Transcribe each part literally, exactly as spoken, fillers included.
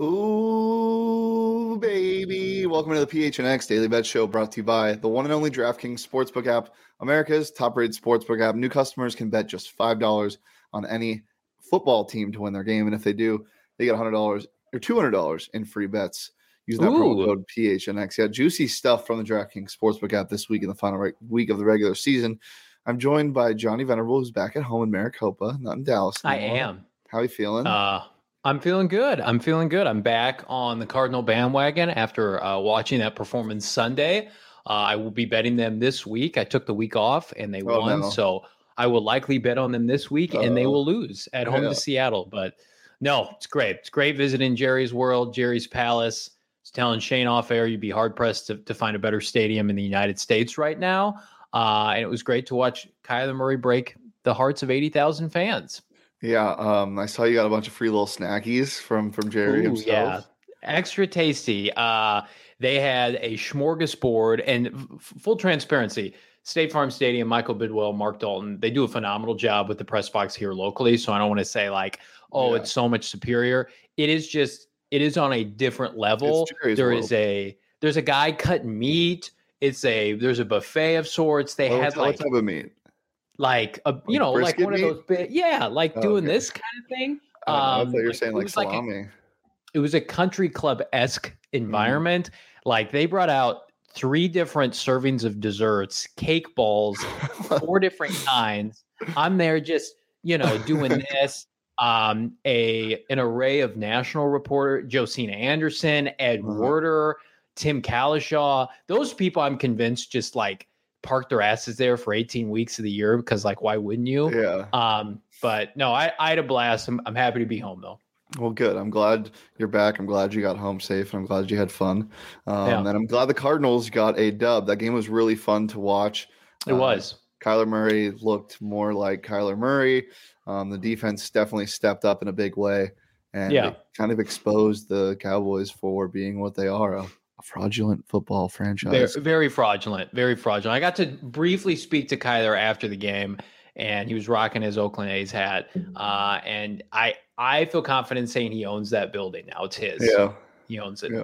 Ooh, baby. Welcome to the P H N X Daily Bet Show, brought to you by the one and only DraftKings Sportsbook app, America's top-rated sportsbook app. New customers can bet just five dollars on any football team to win their game, and if they do, they get one hundred dollars or two hundred dollars in free bets using that promo code P H N X. Yeah, juicy stuff from the DraftKings Sportsbook app this week in the final re- week of the regular season. I'm joined by Johnny Venerable, who's back at home in Maricopa, not in Dallas anymore. I am. How are you feeling? Uh, I'm feeling good. I'm feeling good. I'm back on the Cardinal bandwagon after uh, watching that performance Sunday. Uh, I will be betting them this week. I took the week off and they Oh, won, no. so I will likely bet on them this week, and they Uh-oh. will lose at home Yeah. to Seattle. But no, it's great. It's great visiting Jerry's World, Jerry's Palace. I was telling Shane off air, you'd be hard pressed to, to find a better stadium in the United States right now. Uh, and it was great to watch Kyler Murray break the hearts of eighty thousand fans. Yeah, um, I saw you got a bunch of free little snackies from from Jerry Ooh, himself. Yeah, extra tasty. Uh, they had a smorgasbord, and f- full transparency, State Farm Stadium, Michael Bidwell, Mark Dalton, they do a phenomenal job with the press box here locally. So I don't want to say like, oh, Yeah. it's so much superior. It is just, it is on a different level. It's Jerry's There World. is a, there's a guy cutting meat. It's a, there's a buffet of sorts. They What had type- what like, type of meat? like a, you Like know, like brisket one of meat? those big, yeah, like Oh, doing okay. this kind of thing. I, don't know, I Um, thought you were like, saying it like was like a- salami. it was a country club-esque environment. Like they brought out three different servings of desserts, cake balls, four different kinds. I'm there just, you know, doing this. Um, a an array of national reporter, Josina Anderson, Ed Uh-huh. Werder, Tim Kalishaw. Those people I'm convinced just like park their asses there for eighteen weeks of the year because like why wouldn't you? Yeah. Um, but no, I, I had a blast. I'm, I'm happy to be home though. Well, good. I'm glad you're back. I'm glad you got home safe, and I'm glad you had fun. Um, Yeah. And I'm glad the Cardinals got a dub. That game was really fun to watch. It Uh, was. Kyler Murray looked more like Kyler Murray. Um, the defense definitely stepped up in a big way, and Yeah. it kind of exposed the Cowboys for being what they are, a, a fraudulent football franchise. Very, very fraudulent. Very fraudulent. I got to briefly speak to Kyler after the game, and he was rocking his Oakland A's hat. Uh, and I, I feel confident saying he owns that building now. It's his. Yeah. He owns it. Yeah.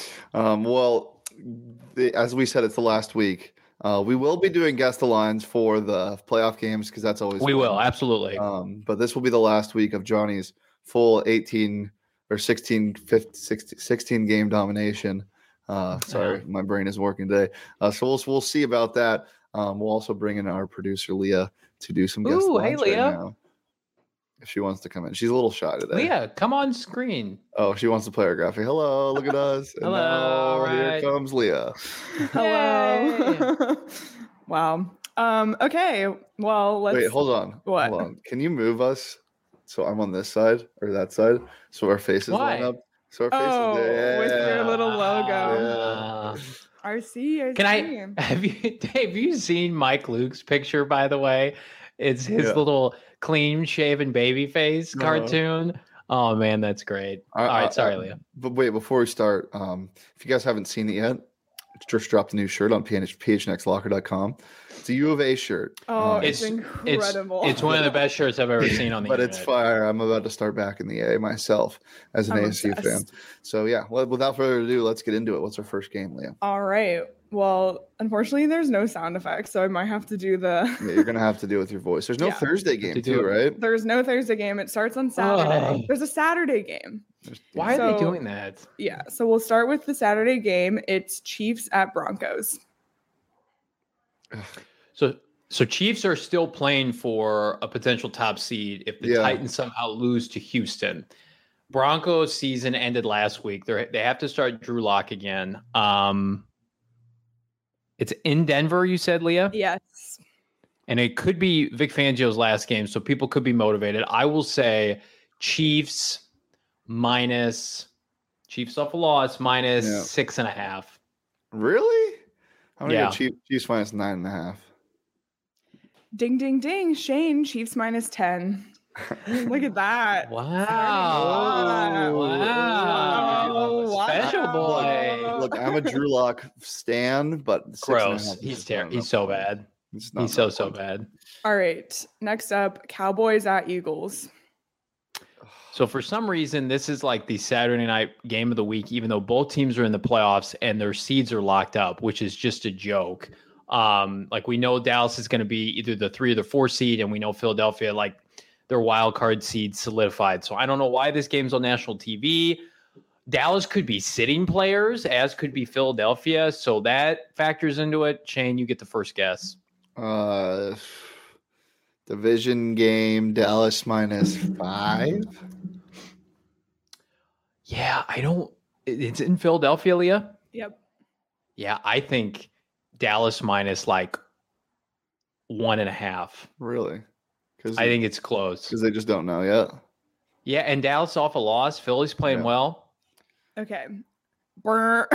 Um, well, the, as we said, it's the last week. Uh, we will be doing guest the lines for the playoff games because that's always We fun. will absolutely. Um, but this will be the last week of Johnny's full eighteen or sixteen, fifteen, sixteen, sixteen game domination. Uh, sorry, Yeah. my brain is working today. Uh, so we'll we'll see about that. Um, we'll also bring in our producer Leah to do some guest Ooh, hey, lines right Leah. now. If she wants to come in, she's a little shy today. Leah, come on screen. Oh, she wants to play our graphic. Hello, look at us. And Hello, now all here right. comes Leah. Hello. Wow. Um, okay. Well, let's Wait, hold on. What? Hold on. Can you move us so I'm on this side or that side so our faces Why? line up? So our faces. Oh, with your little logo. Uh, R C, I Can see. I have you have you seen Mike Luke's picture, by the way? It's his Yeah. little clean shaven baby face Uh-huh. cartoon. Oh man, that's great. I- All I- right, sorry, I- Leah. But wait, before we start, um, if you guys haven't seen it yet, just dropped a new shirt on P H N X locker dot com. It's a U of A shirt. Oh, Um, it's, It's incredible. It's one of the best shirts I've ever seen on the but it's internet. fire. I'm about to start back in the A myself as an I'm A S U fan. obsessed. So yeah, well, without further ado, let's get into it. What's our first game, Leah? All right. Well, unfortunately, there's no sound effects, so I might have to do the. Yeah, you're gonna have to do it with your voice. There's no Yeah. Thursday game To do too, it. right? There's no Thursday game. It starts on Saturday. Oh. There's a Saturday game. There's- Why are they So- doing that? Yeah. So we'll start with the Saturday game. It's Chiefs at Broncos. So so Chiefs are still playing for a potential top seed if the Yeah. Titans somehow lose to Houston. Broncos season ended last week. They they have to start Drew Lock again. Um, it's in Denver, you said, Leah? Yes. And it could be Vic Fangio's last game, so people could be motivated. I will say Chiefs minus Chiefs off a loss minus Yeah. six and a half. Really? I'm gonna Yeah. go Chiefs, Chiefs minus nine and a half. Ding, ding, ding. Shane, Chiefs minus ten. Look at that. Wow. Wow. Wow. Wow. Special boy. Look, I'm a Drew Lock stan, but six and a Gross. half is He's just ter- not he's enough so for me. bad. It's not He's so enough so for me. bad. All right. Next up, Cowboys at Eagles. So for some reason, this is like the Saturday night game of the week, even though both teams are in the playoffs and their seeds are locked up, which is just a joke. Um, like we know Dallas is going to be either the three or the four seed, and we know Philadelphia, like their wild card seed solidified. So I don't know why this game's on national T V. Dallas could be sitting players, as could be Philadelphia. So that factors into it. Shane, you get the first guess. Uh, division game, Dallas minus five. Yeah, I don't. It's in Philadelphia, Leah. Yep. Yeah, I think Dallas minus like one and a half. Really? Because I think it's close. Because they just don't know yet. Yeah, and Dallas off a loss. Philly's playing Yeah. well. Okay. Brr.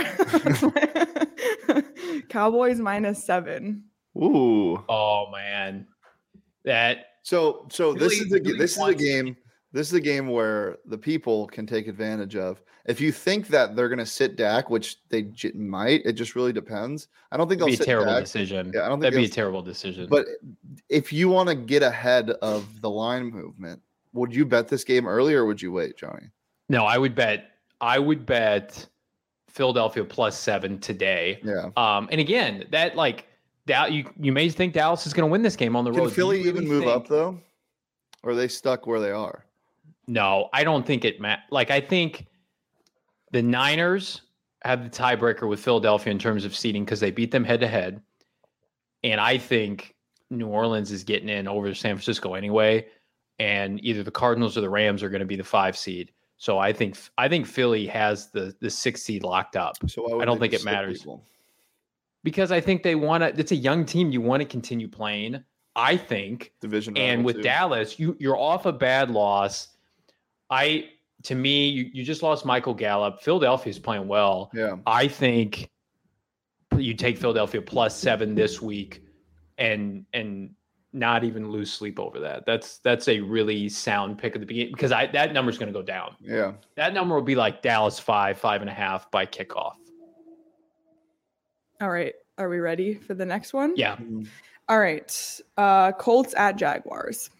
Cowboys minus seven. Ooh. Oh man, that So so this Philly- is the Philly this is a wants- game. This is a game where the people can take advantage of. If you think that they're going to sit Dak, which they j- might, it just really depends. I don't think would they'll be a sit terrible Dak, decision. Yeah, I don't think That'd be a they'll- terrible decision. but if you want to get ahead of the line movement, would you bet this game early or would you wait, Johnny? no, I would bet. I would bet Philadelphia plus seven today. Yeah. Um, and again, that like that you you may think Dallas is going to win this game on the road. Can Do you Philly really even move think- up though? Or are they stuck where they are? No, I don't think it ma- like I think the Niners have the tiebreaker with Philadelphia in terms of seeding because they beat them head to head. And I think New Orleans is getting in over San Francisco anyway. And either the Cardinals or the Rams are going to be the five seed. So I think I think Philly has the the six seed locked up So why would I don't they think just it sit matters. people? because I think they want to. It's a young team. You want to continue playing. I think. Division And rival, with too. Dallas, you you're off a bad loss. I to me, you, you just lost Michael Gallup. Philadelphia's playing well. Yeah. I think you take Philadelphia plus seven this week, and and not even lose sleep over that. That's that's a really sound pick at the beginning because I that number's going to go down. Yeah. That number will be like Dallas five, five and a half by kickoff. All right. Are we ready for the next one? Yeah. Mhm. All right. Uh, Colts at Jaguars.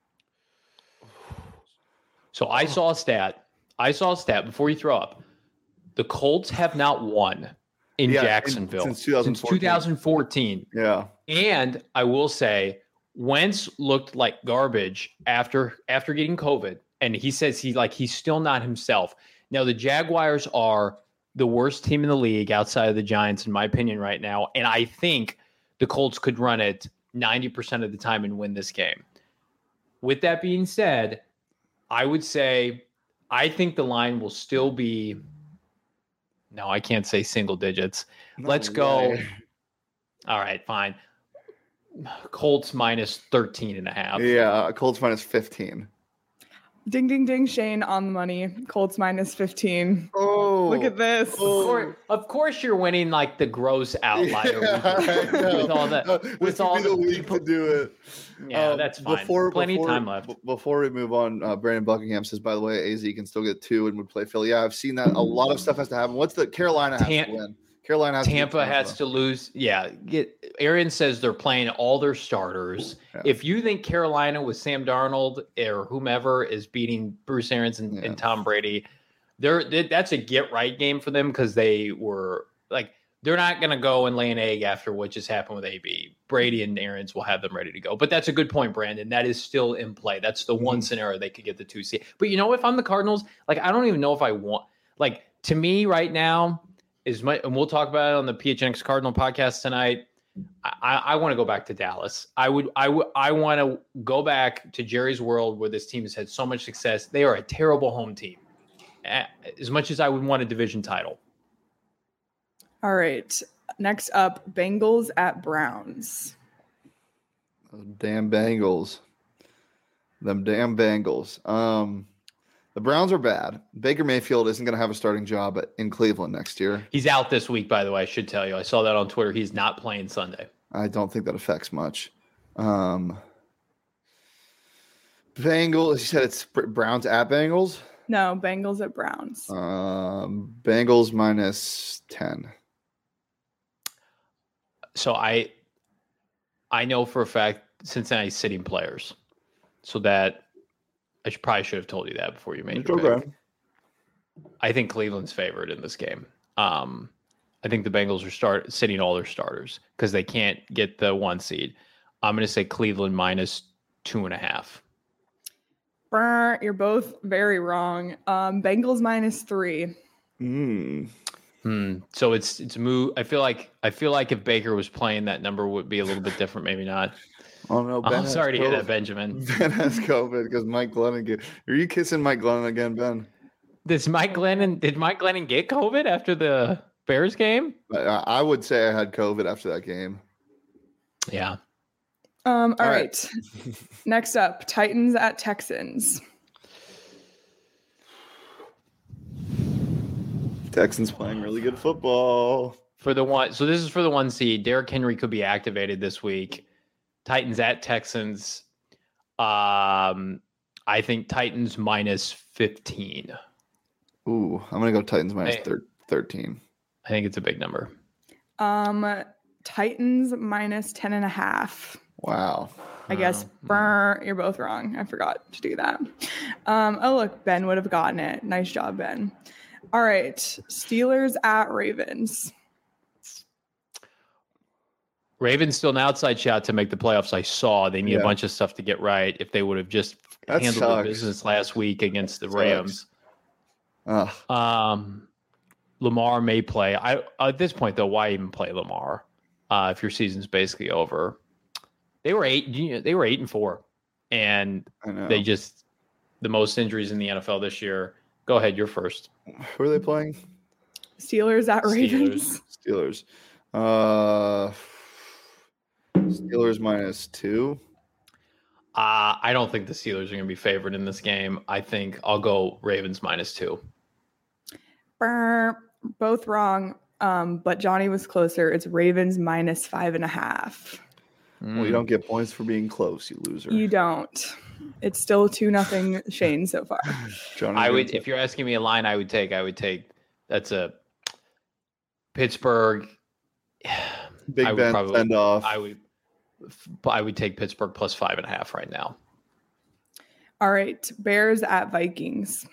So I saw a stat. I saw a stat before you throw up. The Colts have not won in Yeah, in- Jacksonville since twenty fourteen. two thousand fourteen. Yeah. And I will say, Wentz looked like garbage after after getting COVID, and he says he like he's still not himself. Now the Jaguars are the worst team in the league outside of the Giants, in my opinion, right now. And I think the Colts could run it ninety percent of the time and win this game. With that being said, I would say I think the line will still be. No, I can't say single digits. No Let's go. way. All right, fine. Colts minus thirteen and a half. Yeah. Colts minus fifteen. Ding, ding, ding. Shane on the money. Colts minus fifteen. Oh. Look at this. Of course, of course, you're winning like the gross outlier Yeah, with, I know. with all the Uh, with this would all be the the week people- to do it. Yeah, Um, that's fine. Before, Plenty before, of time left. b- Before we move on, uh, Brandon Buckingham says, by the way, A Z can still get two and would play Philly. Yeah, I've seen that. A lot of stuff has to happen. What's the Carolina has Tam- to win? Carolina has Tampa to beat has to lose. Yeah, get Arian says they're playing all their starters. Yeah. If you think Carolina with Sam Darnold or whomever is beating Bruce Arians and, Yeah. and Tom Brady, they're they, that's a get right game for them because they were like they're not going to go and lay an egg after what just happened with A B. Brady and Arians will have them ready to go. But that's a good point, Brandon. That is still in play. That's the one Mhm. scenario they could get the two seed. But you know, if I'm the Cardinals, like I don't even know if I want like to me right now. Is my, and we'll talk about it on the P H N X Cardinal podcast tonight. I, I, I want to go back to Dallas. I would, I would, I want to go back to Jerry's world where this team has had so much success. They are a terrible home team. As much as I would want a division title. All right. Next up, Bengals at Browns. Oh, damn Bengals. Them damn Bengals. Um, the Browns are bad. Baker Mayfield isn't going to have a starting job at, in Cleveland next year. He's out this week, by the way. I should tell you. I saw that on Twitter. He's not playing Sunday. I don't think that affects much. Um, Bengals. You said it's Br- Browns at Bengals. No, Bengals at Browns. Um, Bengals minus ten. So I, I know for a fact Cincinnati's sitting players, so that I should, probably should have told you that before you made It's your okay. pick. I think Cleveland's favored in this game. Um, I think the Bengals are start sitting all their starters because they can't get the one seed. I'm going to say Cleveland minus two and a half. Brr, you're both very wrong. Um, Bengals minus three. Mm. Hmm. So it's it's a move. I feel like I feel like if Baker was playing, that number would be a little bit different. Maybe not. Oh no! Ben I'm has sorry to hear COVID. that, Benjamin. Ben has COVID because Mike Glennon. Get, are you kissing Mike Glennon again, Ben? Does Mike Glennon? Did Mike Glennon get COVID after the Bears game? I, I would say I had COVID after that game. Yeah. Um, all All right. right. Next up, Titans at Texans. Texans playing really good football. For the one, so this is for the one seed. Derrick Henry could be activated this week. Titans at Texans. Um, I think Titans minus fifteen. Ooh, I'm gonna go Titans minus Hey. thir- thirteen. I think it's a big number. Um, Titans minus ten and a half. Wow. I guess Oh, brr, you're both wrong. I forgot to do that. Um, oh, look, Ben would have gotten it. Nice job, Ben. All right. Steelers at Ravens. Ravens still an outside shot to make the playoffs. I saw they need Yeah. a bunch of stuff to get right. If they would have just That handled the sucks. business last week against the Sucks. Rams. Ugh. Um, Lamar may play. I at this point though, why even play Lamar uh, if your season's basically over? They were eight. you know, They were eight and four, and I know. they just the most injuries in the N F L this year. Go ahead, you're first. Who are they playing? Steelers at Ravens. Steelers. Uh, Steelers minus two. Uh, I don't think the Steelers are going to be favored in this game. I think I'll go Ravens minus two. Brr, both wrong. Um, but Johnny was closer. It's Ravens minus five and a half. Well, you don't get points for being close, you loser. You don't. It's still two nothing Shane so far. Johnny, I you would, take- if you're asking me a line, I would take. I would take. That's a Pittsburgh. Big I would Ben probably- send off. I would. I would take Pittsburgh plus five and a half right now. All right. Bears at Vikings.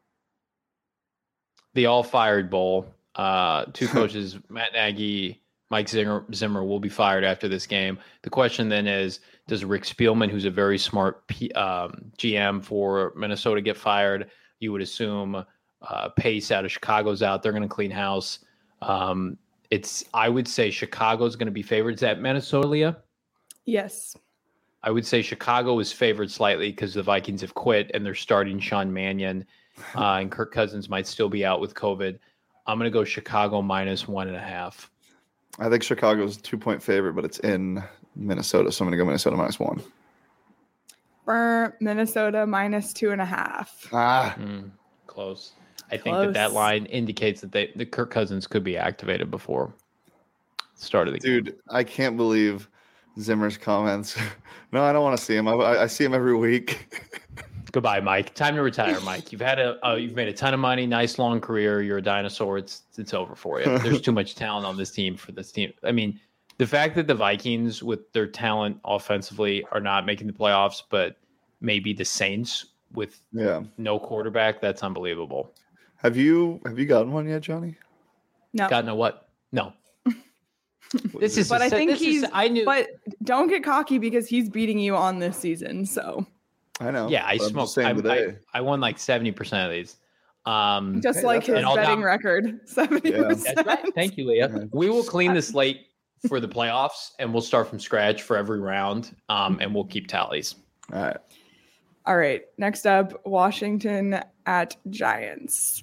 The all fired bowl. Uh, two coaches, Matt Nagy, Mike Zimmer, Zimmer, will be fired after this game. The question then is, does Rick Spielman, who's a very smart P, um, G M for Minnesota, get fired? You would assume uh, Pace out of Chicago's out. They're going to clean house. Um, it's. I would say Chicago's going to be favored. Is that Minnesota, Leah? Yes. I would say Chicago is favored slightly because the Vikings have quit and they're starting Sean Mannion, uh, and Kirk Cousins might still be out with COVID. I'm going to go Chicago minus one and a half. I think Chicago's a two-point favorite, but it's in Minnesota, so I'm going to go Minnesota minus one. Brr, Minnesota minus two and a half. Ah, Mm, close. I think that that Close. line indicates that they, the Kirk Cousins could be activated before the start of the game. dude, I can't believe Zimmer's comments. No, I don't want to see him. I, I I see him every week. Goodbye, Mike. Time to retire, Mike. You've had a uh, you've made a ton of money, nice long career. You're a dinosaur. It's it's over for you. There's too much talent on this team for this team. I mean, the fact that the Vikings, with their talent offensively, are not making the playoffs, but maybe the Saints with Yeah. no quarterback, that's unbelievable. Have you have you gotten one yet, Johnny? No. Got no what? No. This is. But a I set- think this is- he's- I knew. But don't get cocky because he's beating you on this season. So I know. yeah, I but I'm smoked. just saying I, today. I, I won like seventy percent of these. Um, just Hey, like that's- his And all betting down- record, seventy Yeah. percent. That's right. Thank you, Leah. Yeah. We will clean the slate for the playoffs, and we'll start from scratch for every round, um, and we'll keep tallies. All right. All right. Next up, Washington at Giants.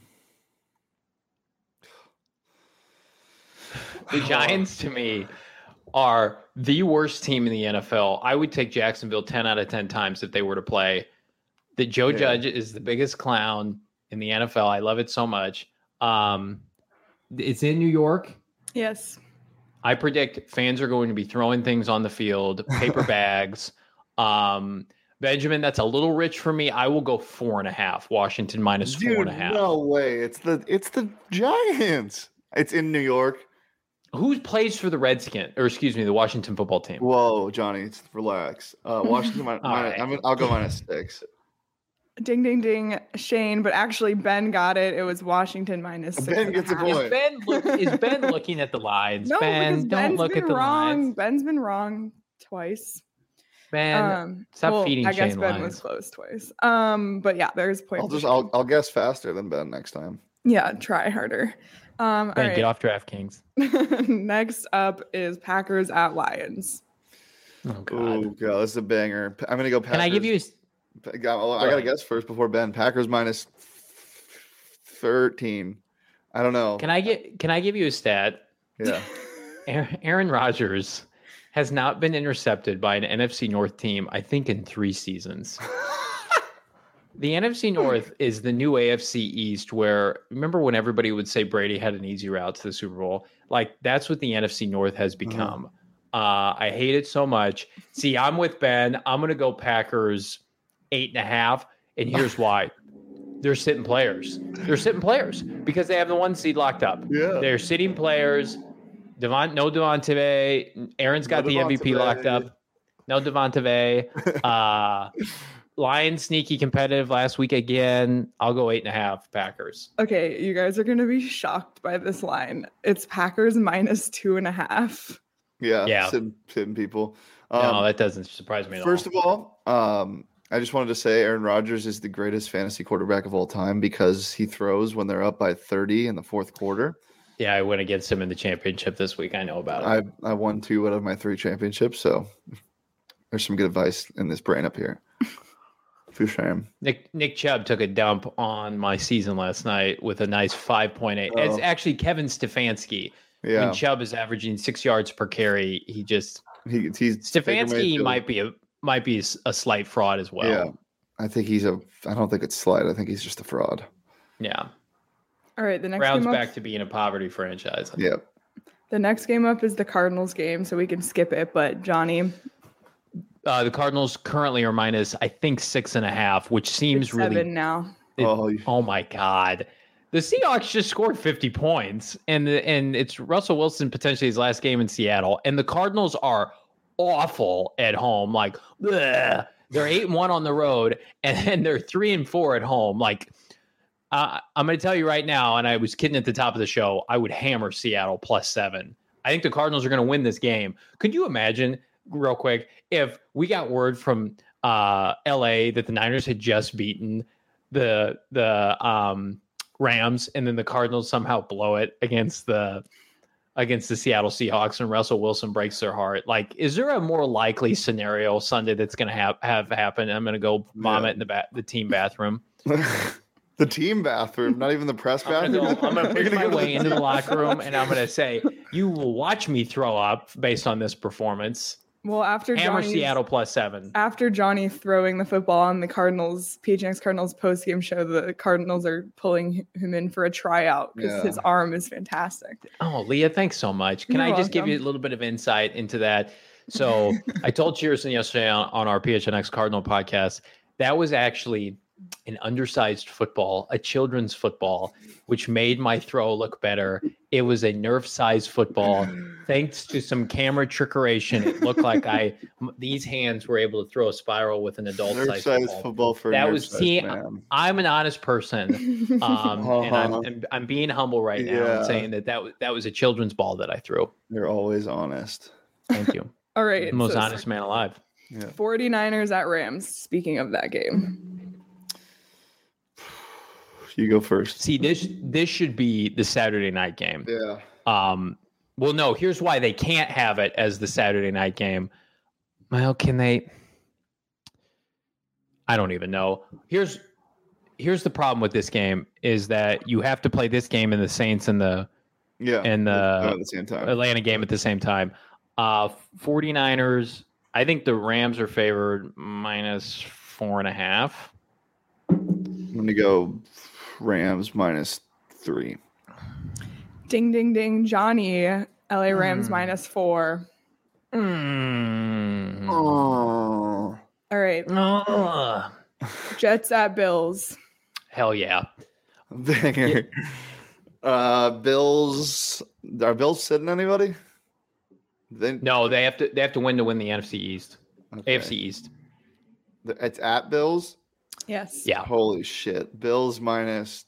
The Giants, to me, are the worst team in the N F L. I would take Jacksonville ten out of ten times if they were to play. That Joe Yeah. Judge is the biggest clown in the N F L. I love it so much. Um, it's in New York. Yes. I predict fans are going to be throwing things on the field, paper bags. Um, Benjamin, that's a little rich for me. I will go four and a half. Washington minus Dude, four and a half. no way. It's the it's the Giants. It's in New York. Who plays for the Redskins, or excuse me, the Washington football team? Whoa, Johnny, it's relax. Uh, Washington minus, All minus right. I'm, I'll go minus six. Ding, ding, ding, Shane. But actually, Ben got it. It was Washington minus six. Ben and a gets a half. Is point. Ben look, is Ben looking at the lines? No, Ben, because don't Ben's look been at the wrong. lines. Ben's been wrong twice. Ben, Um, stop well, feeding I guess Shane Ben lines. was close twice. Um, but yeah, there's point. I'll for just Shane. I'll I'll guess faster than Ben next time. Yeah, try harder. Um, Ben, all get right. off DraftKings. Next up is Packers at Lions. Oh God. Oh god, this is a banger. I'm gonna go Packers. Can I give you? A, I got- I Go gotta ahead. guess first before Ben. Packers minus thirteen. I don't know. can I get? Can I give you a stat? Yeah. Aaron Aaron Rodgers has not been intercepted by an N F C North team, I think, in three seasons. The N F C North is the new A F C East, where remember when everybody would say Brady had an easy route to the Super Bowl? Like, that's what the N F C North has become. Uh, I hate it so much. See, I'm with Ben. I'm going to go Packers eight and a half. And here's why. They're sitting players. They're sitting players because they have the one seed locked up. Yeah. They're sitting players. Devon, no Devontae. Aaron's got No the M V P Devontae. locked up. No Devontae. Uh, Lions sneaky competitive last week again. I'll go eight and a half Packers. Okay, you guys are gonna be shocked by this line. It's Packers minus two and a half. Yeah. Yeah. Sitting, sitting people. no, Um, that doesn't surprise me at First all. of all, um, I just wanted to say Aaron Rodgers is the greatest fantasy quarterback of all time because he throws when they're up by thirty in the fourth quarter. Yeah, I went against him in the championship this week. I know about it. I I won two out of my three championships, so there's some good advice in this brain up here. For shame. Nick Nick Chubb took a dump on my season last night with a nice five point eight. Oh. It's actually Kevin Stefanski. Yeah, When Chubb is averaging six yards per carry, he just he, he's Baker Stefanski Mayfield. might be a might be a slight fraud as well. Yeah, I think he's a. I don't think it's slight. I think he's just a fraud. Yeah. All right, the next Browns game up, back to being a poverty franchise. Yeah, the next game up is the Cardinals game, so we can skip it. But Johnny, Uh, the Cardinals currently are minus, I think, six and a half, which seems it's really. seven now. it- Oh, you- oh my God. The Seahawks just scored fifty points, and the, and it's Russell Wilson potentially his last game in Seattle, and the Cardinals are awful at home. Like, bleh. They're eight and one on the road, and then they're three and four at home. Like, uh, I'm going to tell you right now, and I was kidding at the top of the show, I would hammer Seattle plus seven. I think the Cardinals are going to win this game. Could you imagine, real quick, if we got word from uh, L A that the Niners had just beaten the the um, Rams, and then the Cardinals somehow blow it against the against the Seattle Seahawks, and Russell Wilson breaks their heart? Like, is there a more likely scenario Sunday that's going to have have happen? I'm going to go vomit Yeah. in the ba- the team bathroom. the team bathroom, not even the press I'm bathroom. going to I'm gonna You're push my go to way the- into the locker room, and I'm going to say, "You will watch me throw up based on this performance." Well, after Hammer Johnny's- Seattle plus seven. after Johnny throwing the football on the Cardinals, P H N X Cardinals post game show, the Cardinals are pulling him in for a tryout because Yeah. his arm is fantastic. Oh, Leah, thanks so much. Can You're I just give welcome. you a little bit of insight into that? So I told Cheerson yesterday on, on our P H N X Cardinal podcast, that was actually an undersized football, a children's football, which made my throw look better. It was a Nerf-sized football. Thanks to some camera trickeration, it looked like I m- these hands were able to throw a spiral with an adult-sized Nerf-sized football. football for That a was- nerf-sized see, man. I'm an honest person. Um, and I'm, Uh-huh. I'm I'm being humble right now Yeah. and saying that that was that was a children's ball that I threw. You're always honest. Thank you, All right. most so honest man alive. Yeah. 49ers at Rams. Speaking of that game. You go first. See, this this should be the Saturday night game. Yeah. Um, well, no, here's why they can't have it as the Saturday night game. Well, can they? I don't even know. Here's here's the problem with this game is that you have to play this game and the Saints and the Yeah. and the at the same time. Atlanta game at the same time. Uh, 49ers, I think the Rams are favored minus four and a half. I'm gonna go Rams minus three. Ding, ding, ding. Johnny, L A Rams Hmm. minus four. Mm. Oh. All right. Ugh. Jets at Bills. Hell yeah. Banger. Uh, Bills. Are Bills sitting anybody? They, No, they have to they have to win to win the N F C East. okay. A F C East. It's at Bills. Yes. Yeah. Holy shit. Bills minus.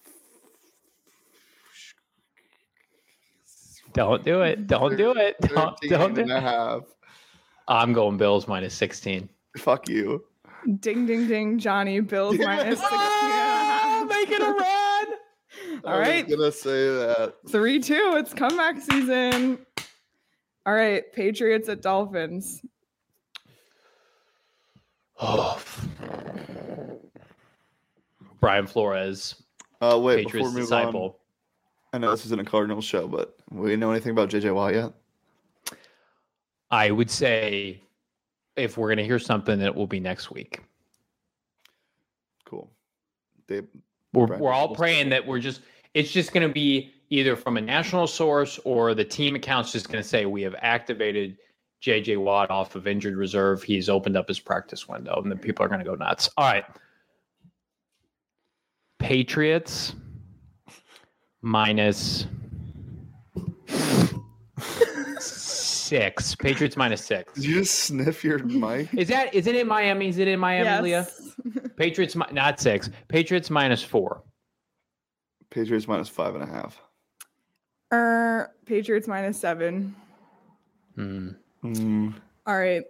Don't do it. Don't do it. Don't, don't do and a it. half. I'm going Bills minus sixteen. Fuck you. Ding, ding, ding. Johnny, Bills Yes. minus sixteen. Oh, making a run. All right. I was gonna say that. three two. It's comeback season. All right. Patriots at Dolphins. Oh. Brian Flores, Uh, wait, Patriots before we move disciple. on, I know this isn't a Cardinals show, but we know anything about J J Watt yet? I would say if we're going to hear something, that it will be next week. Cool. They, We're, Brian we're all Flores. praying that we're just, it's just going to be either from a national source or the team account's just going to say we have activated J J Watt off of injured reserve. He's opened up his practice window, and then people are going to go nuts. All right. Patriots minus six. Patriots minus six. Did you just sniff your mic? Is that, is it in Miami? Is it in Miami, Yes. Leah? Patriots, mi- not six. Patriots minus four. Patriots minus five and a half. Er, Patriots minus seven. Hmm. Mm. All right.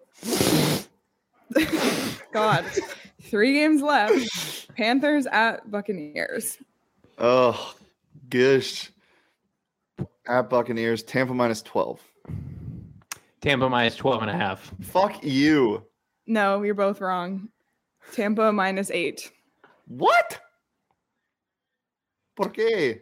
God. Three games left. Panthers at Buccaneers. Oh, gosh. At Buccaneers, Tampa minus twelve. Tampa minus twelve and a half. Fuck you. No, you're both wrong. Tampa minus eight. What? ¿Por qué?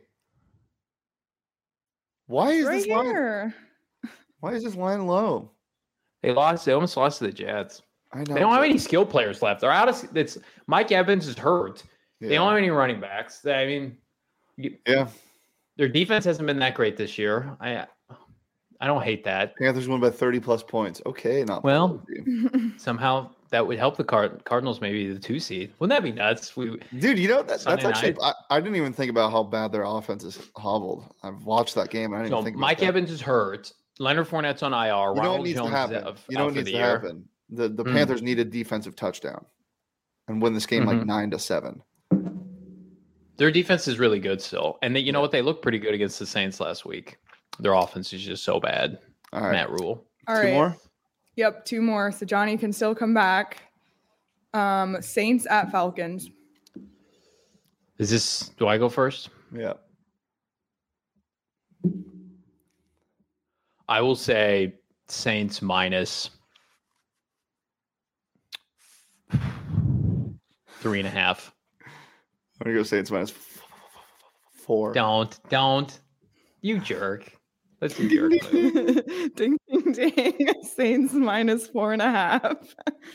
Why is Right this line? here. Why is this line low? They lost. They almost lost to the Jets. I know. They don't have any skill players left. They're out of. It's Mike Evans is hurt. Yeah. They don't have any running backs. I mean, you, yeah. their defense hasn't been that great this year. I, I don't hate that. Panthers won by thirty plus points. Okay, not Well, bad. Somehow that would help the Card- Cardinals, maybe the two seed. Wouldn't that be nuts? We Dude, you know that, that's Sunday actually. night. I, I didn't even think about how bad their offense is hobbled. I've watched that game. I didn't so even think. Mike about that. Evans is hurt. Leonard Fournette's on I R. You know what Ronald needs Jones to happen? is out, You know out what for needs the to year. happen? The the Mm. Panthers need a defensive touchdown and win this game like Mhm. nine to seven. Their defense is really good still, and they, you know what? They looked pretty good against the Saints last week. Their offense is just so bad. All right, Matt Rule. All two right. more. Yep, two more. So Johnny can still come back. Um, Saints at Falcons. Is this? Do I go first? Yeah, I will say Saints minus three and a half. I'm gonna go Saints minus f- f- four. Don't, don't, you jerk. Let's do jerk. move. Ding, ding, ding. Saints minus four and a half.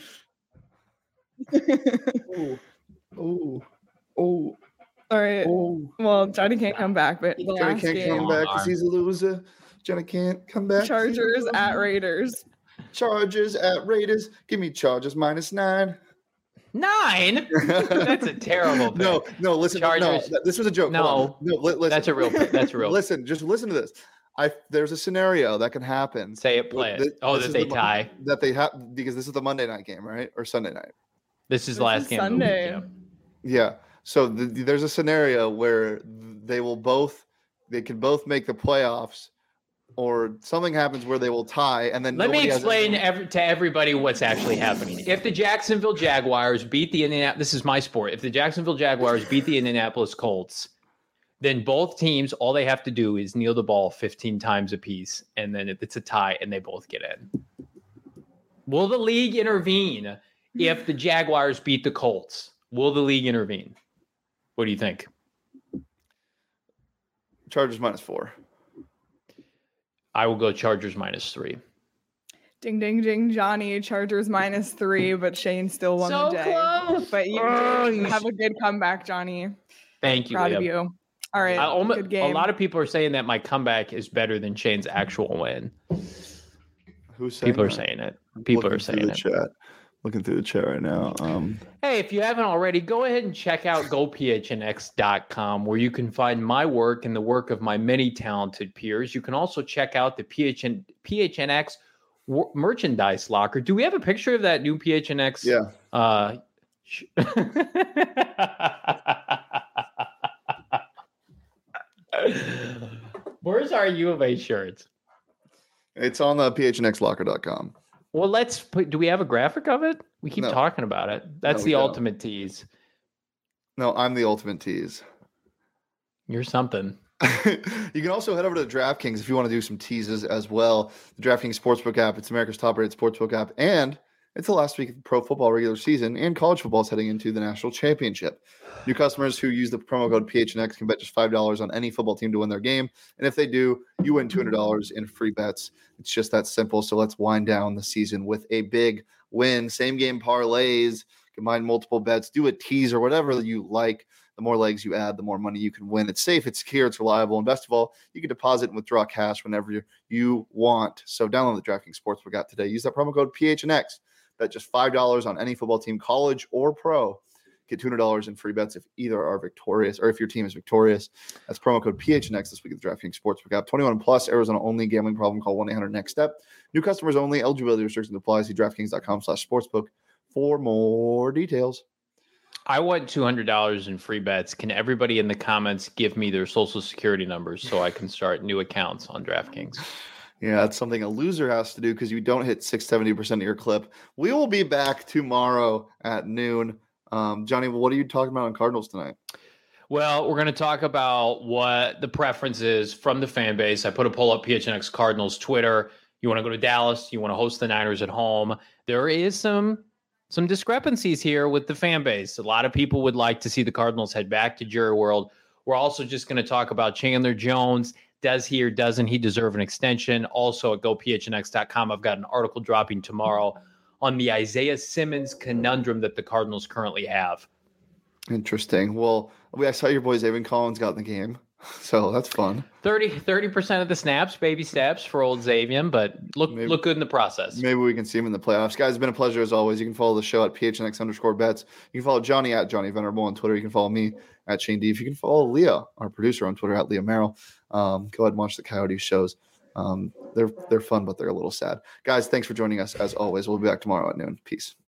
Oh, oh, oh, All right. oh. Well, Johnny can't come back, but the Johnny last can't game, come back because he's a loser. Johnny can't come back. 'cause he's a Chargers loser. at Raiders. Chargers at Raiders. Give me Chargers minus nine. Nine. That's a terrible pick. No, no, listen. No, Chargers- th- this was a joke. No. Hold on. no. Li- listen. That's a real. That's a real. Listen, just listen to this. I there's a scenario that can happen. Say it. Play Th- it. Oh, this that is they the mo- tie. That they have because this is the Monday night game, right, or Sunday night? This is the This last is game. of the week, Sunday. yeah. Yeah. So th- there's a scenario where they will both they can both make the playoffs, or something happens where they will tie, and then Let me nobody has- explain every, to everybody what's actually happening. If the Jacksonville Jaguars beat the Indianapolis, this is my sport. If the Jacksonville Jaguars beat the Indianapolis Colts, then both teams, all they have to do is kneel the ball fifteen times apiece, and then it's a tie, and they both get in. Will the league intervene if the Jaguars beat the Colts? Will the league intervene? What do you think? Chargers minus four. I will go Chargers minus three. Ding, ding, ding. Johnny, Chargers minus three, but Shane still won So the day. close. But you Oh, did you have a good comeback, Johnny. Thank you. Proud Leah. of you. All right. I almost, good a game. lot of people are saying that my comeback is better than Shane's actual win. Who's saying People are that? saying it. People Looking are through saying the it. Chat. Looking through the chat right now. Um, Hey, if you haven't already, go ahead and check out go p h n x dot com, where you can find my work and the work of my many talented peers. You can also check out the P H N, P H N X wor- merchandise locker. Do we have a picture of that new P H N X yeah. uh, Where's our U of A shirts? It's on the P H N X locker dot com. Well, let's put, do we have a graphic of it? We keep No. talking about it. That's No, the don't. ultimate tease. No, I'm the ultimate tease. You're something. You can also head over to the DraftKings if you want to do some teases as well. The DraftKings Sportsbook app, it's America's top-rated sportsbook app, and it's the last week of the pro football regular season, and college football is heading into the national championship. New customers who use the promo code P H N X can bet just five dollars on any football team to win their game, and if they do, you win two hundred dollars in free bets. It's just that simple, so let's wind down the season with a big win. Same-game parlays, combine multiple bets, do a tease or whatever you like. The more legs you add, the more money you can win. It's safe, it's secure, it's reliable, and best of all, you can deposit and withdraw cash whenever you, you want. So download the DraftKings Sportsbook app today. Use that promo code P H N X. Bet just five dollars on any football team, college or pro. Get two hundred dollars in free bets if either are victorious or if your team is victorious. That's promo code P H N X this week at the DraftKings Sportsbook app. twenty-one plus, Arizona only. Gambling problem, call one eight hundred next step. New customers only. Eligibility restrictions apply. See DraftKings.com slash sportsbook for more details. I want two hundred dollars in free bets. Can everybody in the comments give me their social security numbers so I can start new accounts on DraftKings? Yeah, that's something a loser has to do because you don't hit six hundred seventy percent of your clip. We will be back tomorrow at noon. Um, Johnny, what are you talking about on Cardinals tonight? Well, we're going to talk about what the preference is from the fan base. I put a poll up P H N X Cardinals Twitter. You want to go to Dallas? You want to host the Niners at home? There is some some discrepancies here with the fan base. A lot of people would like to see the Cardinals head back to Jerry World. We're also just going to talk about Chandler Jones. Does he or doesn't he deserve an extension? Also at go P H N X dot com, I've got an article dropping tomorrow on the Isaiah Simmons conundrum that the Cardinals currently have. Interesting. Well, I saw your boy Zaven Collins got in the game, so that's fun. thirty percent of the snaps, baby steps for old Xavier, but look maybe, look good in the process. Maybe we can see him in the playoffs. Guys, it's been a pleasure as always. You can follow the show at P H N X underscore bets. You can follow Johnny at Johnny Venerable on Twitter. You can follow me at Shane Deef. You can follow Leah, our producer, on Twitter at Leah Merrill. Um, go ahead and watch the Coyotes shows. Um, they're they're fun, but they're a little sad. Guys, thanks for joining us as always. We'll be back tomorrow at noon. Peace.